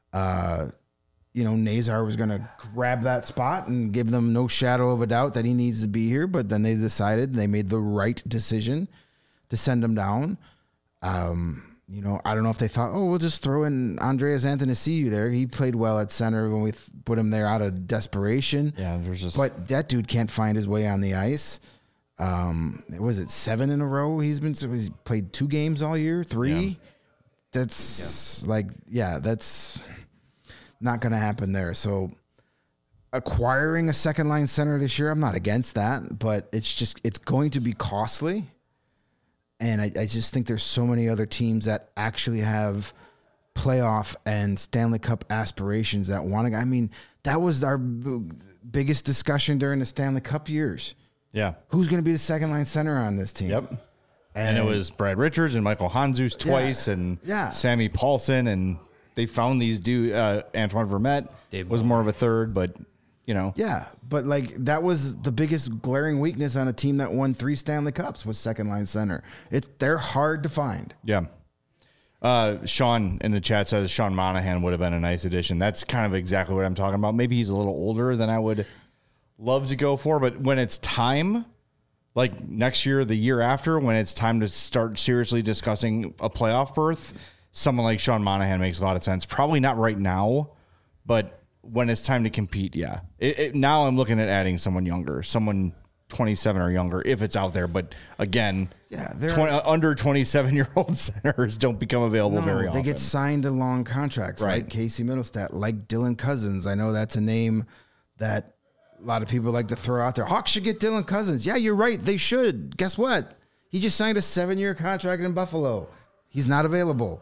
Nazar was going to grab that spot and give them no shadow of a doubt that he needs to be here. But then they decided they made the right decision to send him down. I don't know if they thought, we'll just throw in Andreas Athanasiou there. He played well at center when we put him there out of desperation. Yeah, but that dude can't find his way on the ice. Was it 7 in a row? He's played 2 games all year, 3. Yeah. That's that's not going to happen there. So acquiring a second line center this year, I'm not against that, but it's going to be costly. And I just think there's so many other teams that actually have playoff and Stanley Cup aspirations that want to. I mean, that was our biggest discussion during the Stanley Cup years. Yeah. Who's going to be the second line center on this team? Yep. And it was Brad Richards and Michael Handzus twice and Sammy Paulson. And they found these dudes. Antoine Vermette was more of a third, but Yeah, but that was the biggest glaring weakness on a team that won 3 Stanley Cups was second line center. They're hard to find. Yeah. Sean in the chat says Sean Monahan would have been a nice addition. That's kind of exactly what I'm talking about. Maybe he's a little older than I would love to go for, but when it's time, like next year, the year after, when it's time to start seriously discussing a playoff berth, someone like Sean Monahan makes a lot of sense. Probably not right now, but when it's time to compete, yeah. Now I'm looking at adding someone younger, someone 27 or younger, if it's out there. But again, under 27-year-old centers don't become available very often. They get signed to long contracts, like Casey Middlestat, like Dylan Cousins. I know that's a name that a lot of people like to throw out there. Hawks should get Dylan Cousins. Yeah, you're right. They should. Guess what? He just signed a 7-year contract in Buffalo. He's not available.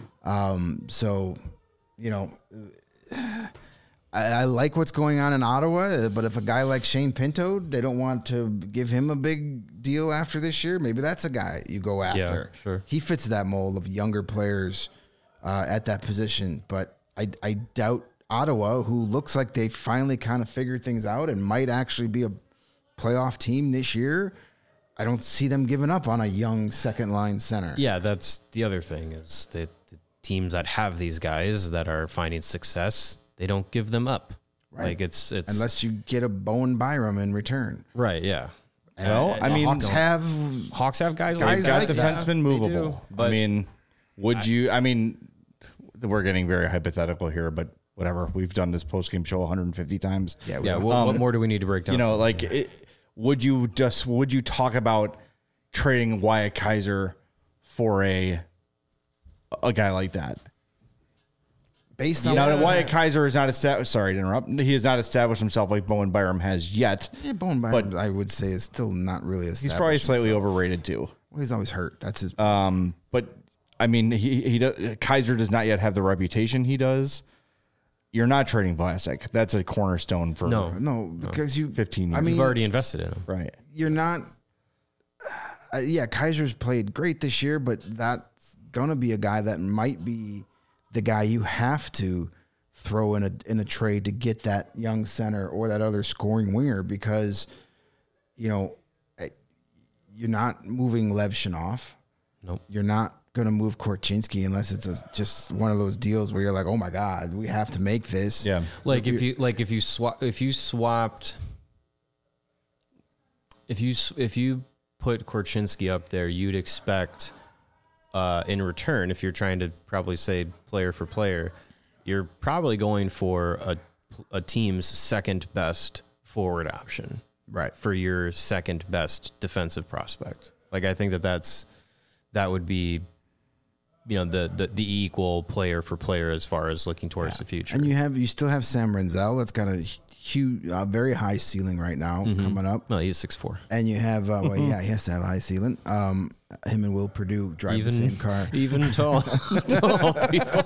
I like what's going on in Ottawa, but if a guy like Shane Pinto, they don't want to give him a big deal after this year, maybe that's a guy you go after. Yeah, sure. He fits that mold of younger players at that position, but I doubt Ottawa, who looks like they finally kind of figured things out and might actually be a playoff team this year. I don't see them giving up on a young second line center. Yeah, that's the other thing is that the teams that have these guys that are finding success, they don't give them up. Right. Like it's unless you get a Bowen Byram in return. Right. Yeah. Well, I mean, Hawks have they've guys got like defensemen movable. But I mean, we're getting very hypothetical here, but whatever. We've done this post-game show 150 times. Yeah. What more do we need to break down? Would you talk about trading Wyatt Kaiser for a guy like that? Based on Wyatt Kaiser is not established. Sorry to interrupt. He has not established himself like Bowen Byram has yet. Yeah, Bowen Byram, I would say, is still not really established. He's probably slightly overrated too. Well, he's always hurt. That's his. But I mean, Kaiser does not yet have the reputation he does. You're not trading Vlasic. That's a cornerstone for No, because you 15 years. I mean, You've already invested in him. Right. you're not. Kaiser's played great this year, but that's gonna be a guy that might be the guy you have to throw in a trade to get that young center or that other scoring winger, because you're not moving Lev Shinov. Nope. You're not going to move Korchinski unless it's just one of those deals where you're like, oh my God, we have to make this. Yeah. If you put Korchinski up there, you'd expect in return, if you're trying to probably say player for player, you're probably going for a team's second best forward option, Right. for your second best defensive prospect. Like, I think that would be, the equal player for player as far as looking towards the future. And you still have Sam Renzel. That's got a huge, very high ceiling right now coming up. Well, he's 6'4". And you have, he has to have a high ceiling. Him and Will Perdue drive the same car. Even tall people.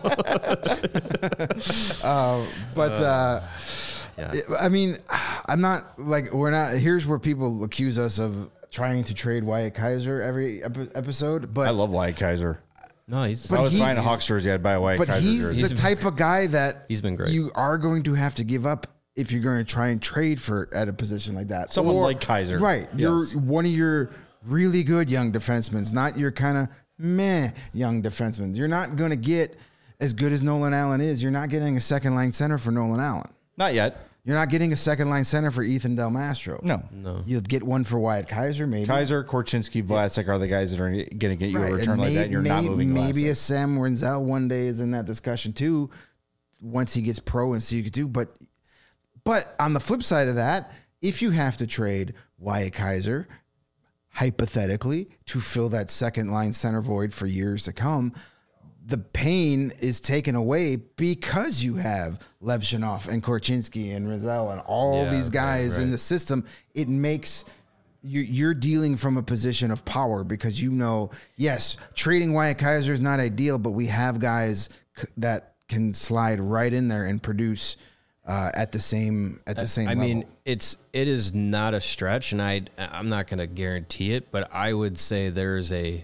Yeah. I mean, I'm not like, here's where people accuse us of trying to trade Wyatt Kaiser every episode. But I love Wyatt Kaiser. No, If I was buying a Hawks jersey, I'd buy a Wyatt But Kaiser he's jersey. the type of guy that He's been great. you are going to have to give up if you're going to try and trade at a position like that. Someone like Kaiser. Right. Yes. You're one of your really good young defensemen, not your kind of meh young defensemen. You're not going to get as good as Nolan Allen is. You're not getting a second line center for Nolan Allen. Not yet. You're not getting a second line center for Ethan Del Mastro. No. You'll get one for Wyatt Kaiser, maybe. Kaiser, Korchinski, Vlasic are the guys that are going to get you a return and like that. And you're not moving maybe Vlasic. a Sam Renzel one day is in that discussion too, once he gets pro and see you could do. But on the flip side of that, if you have to trade Wyatt Kaiser, hypothetically, to fill that second line center void for years to come, the pain is taken away because you have Lev Shinov and Korchinski and Renzel and all these guys in the system. It makes you're dealing from a position of power because yes, trading Wyatt Kaiser is not ideal, but we have guys that can slide right in there and produce at the same level. I mean, it is not a stretch, and I'm not going to guarantee it, but I would say there's a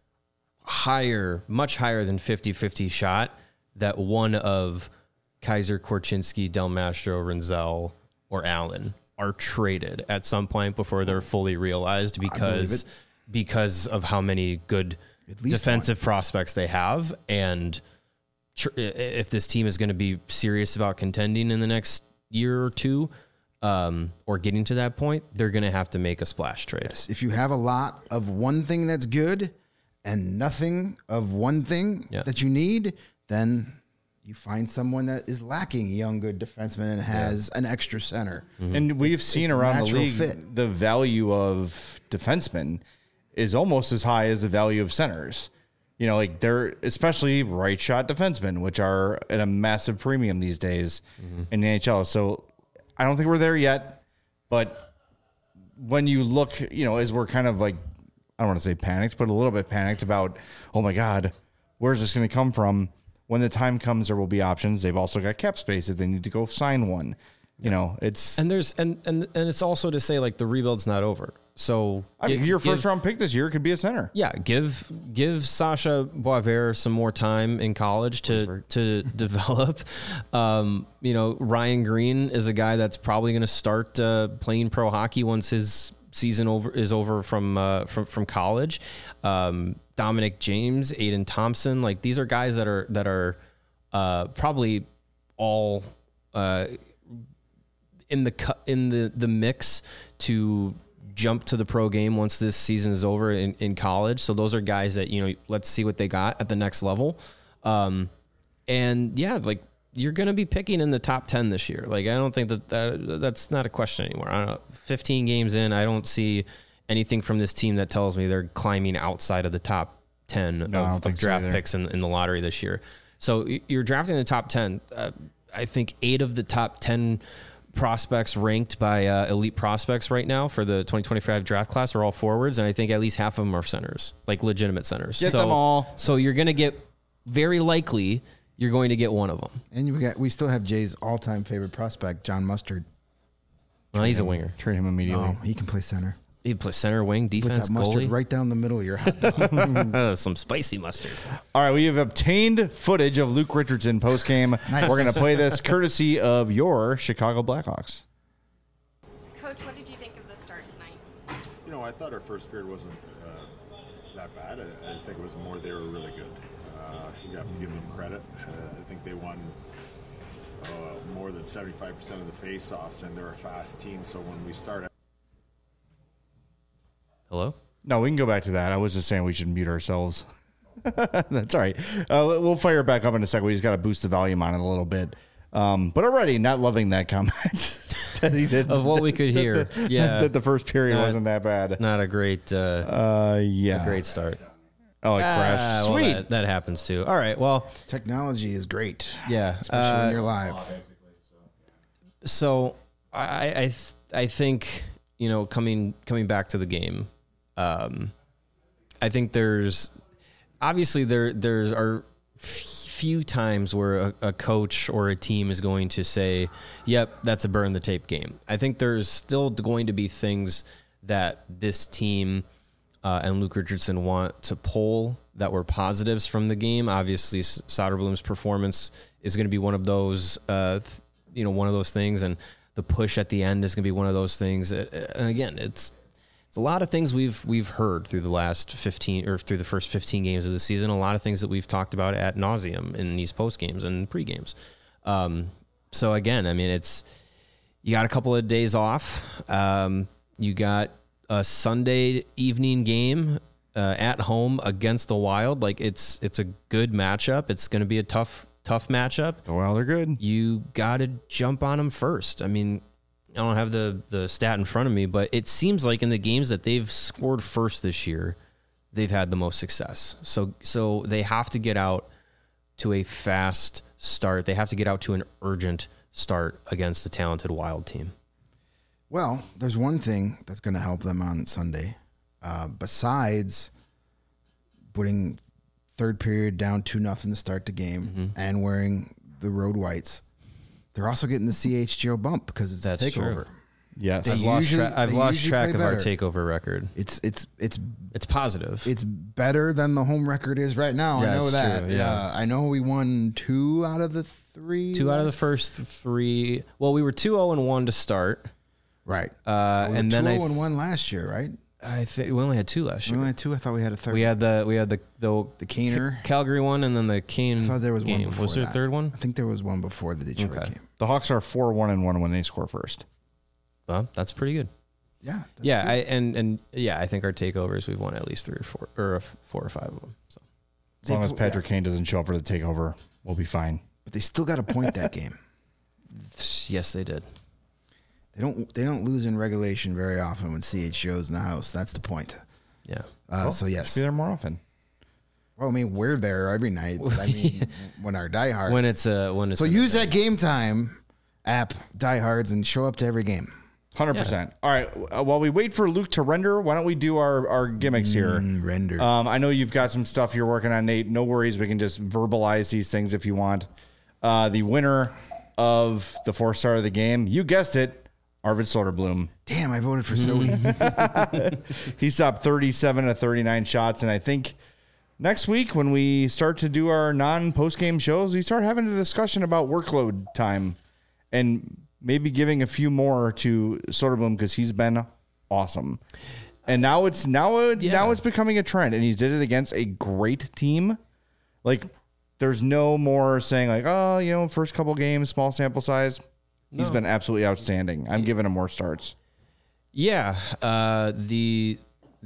much higher than 50-50 shot that one of Kaiser, Korchinski, Del Mastro, Renzel, or Allen are traded at some point before they're fully realized because of how many good defensive prospects they have. And if this team is going to be serious about contending in the next year or two, or getting to that point, they're going to have to make a splash trade. Yes, if you have a lot of one thing that's good and nothing of one thing that you need, then you find someone that is lacking young, good defenseman and has an extra center. Mm-hmm. And we've seen around the league, the value of defensemen is almost as high as the value of centers. Like they're especially right shot defensemen, which are at a massive premium these days in the NHL. So I don't think we're there yet, but when you look, as we're kind of like, I don't want to say panicked, but a little bit panicked about, oh my God, where's this going to come from? When the time comes, there will be options. They've also got cap space if they need to go sign one. It's and it's also to say like the rebuild's not over. So your first round pick this year could be a center. Yeah, give Sasha Boisvert some more time in college to develop. Ryan Green is a guy that's probably going to start playing pro hockey once his season is over from college. Dominic James, Aiden Thompson, like these are guys that are probably all in the mix to jump to the pro game once this season is over in college. So those are guys that let's see what they got at the next level. And yeah, like you're going to be picking in the top 10 this year. Like I don't think that's not a question anymore. I don't know. 15 games in, I don't see anything from this team that tells me they're climbing outside of the top 10 of draft picks in the lottery this year. So you're drafting the top 10. I think 8 of the top 10 prospects ranked by elite prospects right now for the 2025 draft class are all forwards, and I think at least half of them are centers, like legitimate centers. Get them all. So you're going to get, very likely, you're going to get one of them. And we still have Jay's all-time favorite prospect, John Mustard. Well, he's a winger. Trade him immediately. Oh, he can play center. He'd play center, wing, Put defense, that mustard goalie. right down the middle of your hot dog. Some spicy mustard. All right, we have obtained footage of Luke Richardson post-game. Nice. We're going to play this courtesy of your Chicago Blackhawks. Coach, what did you think of the start tonight? You know, I thought our first period wasn't that bad. I think it was more they were really good. You have to give them credit. I think they won more than 75% of the face-offs, and they're a fast team. So when we start... Hello? No, we can go back to that. I was just saying we should mute ourselves. That's all right. We'll fire it back up in a second. We just got to boost the volume on it a little bit. But already not loving that comment that he did. Of what we could hear. Yeah. that the first period wasn't that bad. Not a great Yeah. a great start. Oh, it crashed. Well, Sweet. that happens too. All right. Well, Technology is great, yeah. especially when you're live. So I think, you know, coming back to the game, I think there's obviously there's are few times where a coach or a team is going to say, "Yep, that's a burn the tape game." I think there's still going to be things that this team and Luke Richardson want to pull that were positives from the game. Obviously, Soderblom's performance is going to be one of those, one of those things, and the push at the end is going to be one of those things. And again, it's a lot of things we've heard through the last 15 or through the first 15 games of the season. A lot of things that we've talked about ad nauseum in these post games and pre games. So again, I mean, you got a couple of days off. You got a Sunday evening game at home against the Wild. Like it's a good matchup. It's going to be a tough matchup. Well, they're good. You got to jump on them first. I mean, I don't have the stat in front of me, but it seems like in the games that they've scored first this year, they've had the most success. So they have to get out to a fast start. They have to get out to an urgent start against a talented Wild team. Well, there's one thing that's going to help them on Sunday, besides putting third period down 2-0 to start the game and wearing the road whites. They're also getting the CHGO bump because it's That's a takeover. true. Yes. I've lost track of our play takeover record. It's It's positive. it's better than the home record is right now. Yeah, I know it's that. true, yeah. I know we won 2 out of the 3. 2 out of the first 3. Well, we were 2-0-1 to start. Right. And then 2-0-1 last year, right? I think we only had 2 last We year. only had 2. I thought we had a third. We had the Caner. Calgary one, and then the Kane. I thought there was game. one before. Was there a that. third one? I think there was one before the Detroit Okay. game. The Hawks are 4-1-1 when they score first. Well, that's pretty good. Yeah. that's Yeah, good. I think our takeovers we've won at least 3 or 4 or 4 or 5 of them. So As long as Patrick Kane doesn't show up for the takeover, we'll be fine. But they still got a point that game. yes, they did. They don't lose in regulation very often when CHGO's in the house. That's the point. Yeah. So yes. Be there more often. Well, I mean, we're there every night. But I mean, when our diehards. When it's so use that Game Time app, diehards, and show up to every game. 100%. All right. While we wait for Luke to render, why don't we do our gimmicks here? Render. I know you've got some stuff you're working on, Nate. No worries. We can just verbalize these things if you want. The winner of the 4-star of the game, you guessed it, Arvid Soderblom. Damn, I voted for Sody. He stopped 37 of 39 shots. And I think next week when we start to do our non-post-game shows, we start having a discussion about workload time and maybe giving a few more to Soderblom because he's been awesome. And now it's becoming a trend, and he did it against a great team. Like, there's no more saying like, oh, first couple games, small sample size. He's been absolutely outstanding. I'm giving him more starts. Yeah. The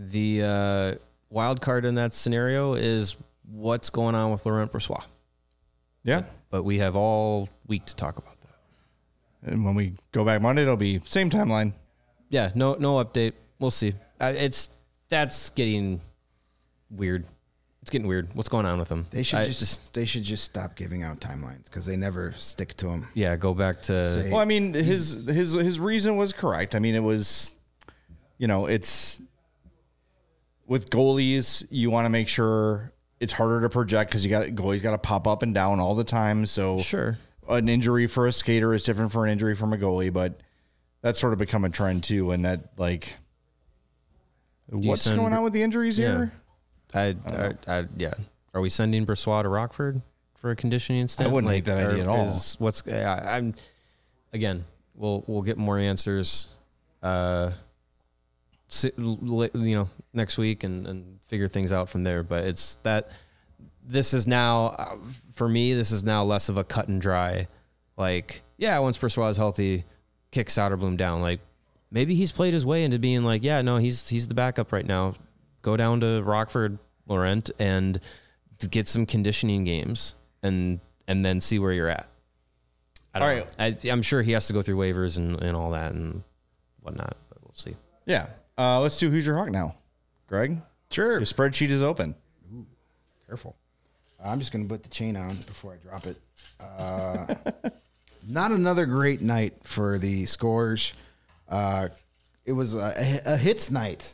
wild card in that scenario is what's going on with Laurent Brossoit. Yeah. But we have all week to talk about that. And when we go back Monday, it'll be same timeline. Yeah. No update. We'll see. That's getting weird. It's getting weird. What's going on with him? They should they should just stop giving out timelines because they never stick to them. Yeah, go back to. Well, I mean, his reason was correct. I mean, it was, it's with goalies, you want to make sure it's harder to project because goalies got to pop up and down all the time. So Sure. An injury for a skater is different from an injury from a goalie, but that's sort of become a trend too. And that what's going on with the injuries here? Yeah. Are we sending Brossoit to Rockford for a conditioning stint? I wouldn't hate that idea at all. I'm again. We'll get more answers, next week and figure things out from there. But it's that this is now for me. This is now less of a cut and dry. Once Brossoit is healthy, kick Soderblom down. Like maybe he's played his way into being he's the backup right now. Go down to Rockford, Laurent, and get some conditioning games and then see where you're at. I don't know. I'm sure he has to go through waivers and all that and whatnot, but we'll see. Yeah. Let's do Who's Your Hawk now. Greg? Sure. Your spreadsheet is open. Ooh, careful. I'm just going to put the chain on before I drop it. Not another great night for the scores. It was a hits night.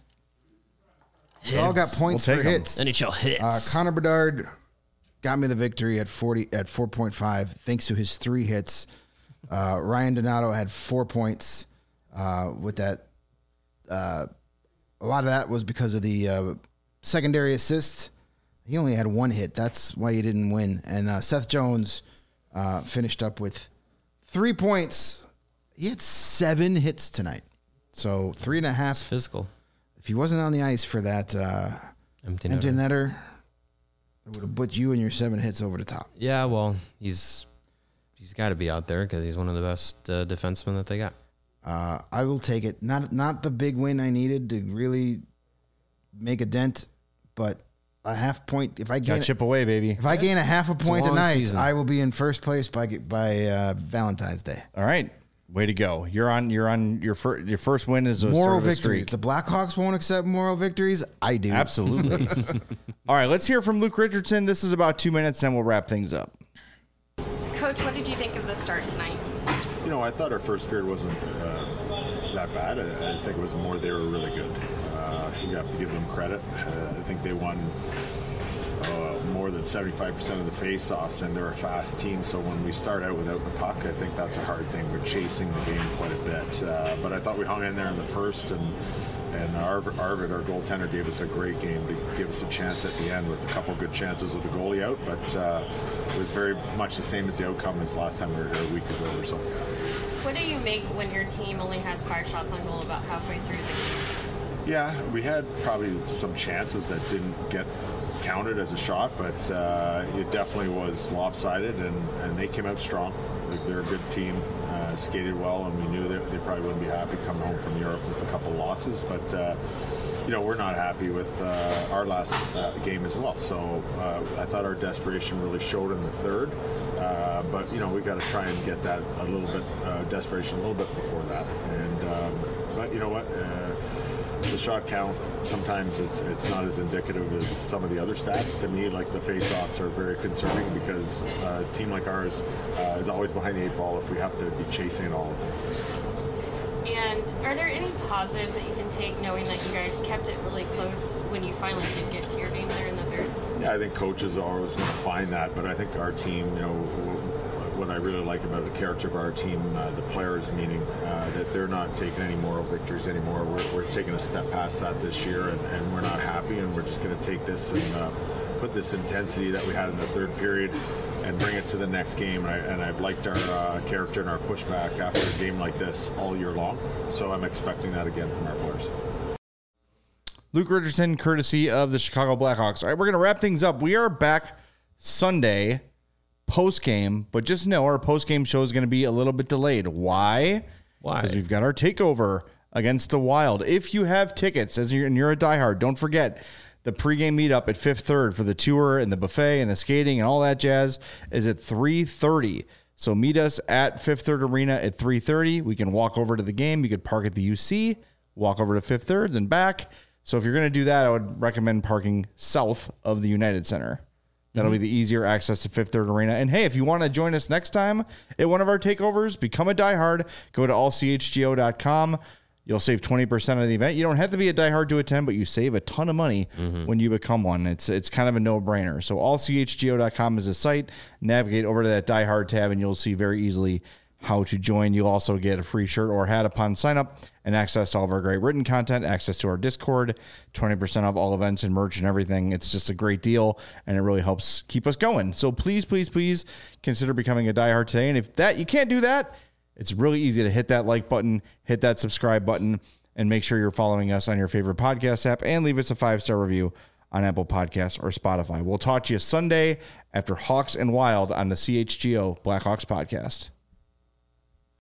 We all got points for hits. NHL hits. Connor Bedard got me the victory at 4.5 thanks to his 3 hits. Ryan Donato had 4 points with that. A lot of that was because of the secondary assist. He only had 1 hit. That's why he didn't win. And Seth Jones finished up with 3 points. He had 7 hits tonight. So 3.5. Physical. If he wasn't on the ice for that empty netter, it would have put you and your 7 hits over the top. Yeah, well, he's got to be out there because he's one of the best defensemen that they got. I will take it. Not the big win I needed to really make a dent, but a half point. If I gain chip away, baby. If I gain a half a point tonight, season. I will be in first place by Valentine's Day. All right. Way to go. You're on your first win is a moral sort of a victories. streak. The Blackhawks won't accept moral victories. I do. Absolutely. All right, let's hear from Luke Richardson. This is about 2 minutes, then we'll wrap things up. Coach, what did you think of the start tonight? I thought our first period wasn't that bad. I think it was more they were really good. You have to give them credit. I think they won more than 75% of the face-offs, and they're a fast team. So when we start out without the puck, I think that's a hard thing. We're chasing the game quite a bit. But I thought we hung in there in the first, and Arvid, our goaltender, gave us a great game to give us a chance at the end with a couple good chances with the goalie out. But it was very much the same as the outcome as last time we were here a week ago or so. What do you make when your team only has 5 shots on goal about halfway through the game? Yeah, we had probably some chances that didn't get counted as a shot, but it definitely was lopsided, and they came out strong. They're a good team, skated well, and we knew that they probably wouldn't be happy coming home from Europe with a couple losses, but we're not happy with our last game as well. So I thought our desperation really showed in the third, but we got to try and get that a little bit desperation a little bit before that, and but you know what. The shot count, sometimes it's not as indicative as some of the other stats. To me, like the face-offs are very concerning because a team like ours is always behind the 8 ball if we have to be chasing it all the time. And are there any positives that you can take knowing that you guys kept it really close when you finally did get to your game there in the third? Yeah, I think coaches are always going to find that, but I think our team, what I really like about the character of our team, the players, meaning that they're not taking any moral victories anymore. We're taking a step past that this year, and we're not happy, and we're just going to take this and put this intensity that we had in the third period and bring it to the next game. And I've liked our character and our pushback after a game like this all year long, so I'm expecting that again from our players. Luke Richardson, courtesy of the Chicago Blackhawks. All right, we're going to wrap things up. We are back Sunday post-game, but just know our post-game show is going to be a little bit delayed. Why? Because we've got our takeover against the Wild. If you have tickets and you're a diehard, don't forget the pregame meetup at Fifth Third for the tour and the buffet and the skating and all that jazz is at 3:30. So meet us at Fifth Third Arena at 3:30. We can walk over to the game. You could park at the UC, walk over to Fifth Third, then back. So if you're going to do that, I would recommend parking south of the United Center. That'll be the easier access to Fifth Third Arena. And hey, if you want to join us next time at one of our takeovers, become a diehard. Go to allchgo.com. You'll save 20% of the event. You don't have to be a diehard to attend, but you save a ton of money when you become one. It's kind of a no-brainer. So allchgo.com is the site. Navigate over to that diehard tab, and you'll see very easily how to join. You'll also get a free shirt or hat upon sign up and access to all of our great written content, access to our Discord, 20% off all events and merch and everything. It's just a great deal, and it really helps keep us going. So please, please, please consider becoming a diehard today. And if that you can't do that, it's really easy to hit that like button, hit that subscribe button, and make sure you're following us on your favorite podcast app and leave us a 5-star review on Apple Podcasts or Spotify. We'll talk to you Sunday after Hawks and Wild on the CHGO Blackhawks podcast.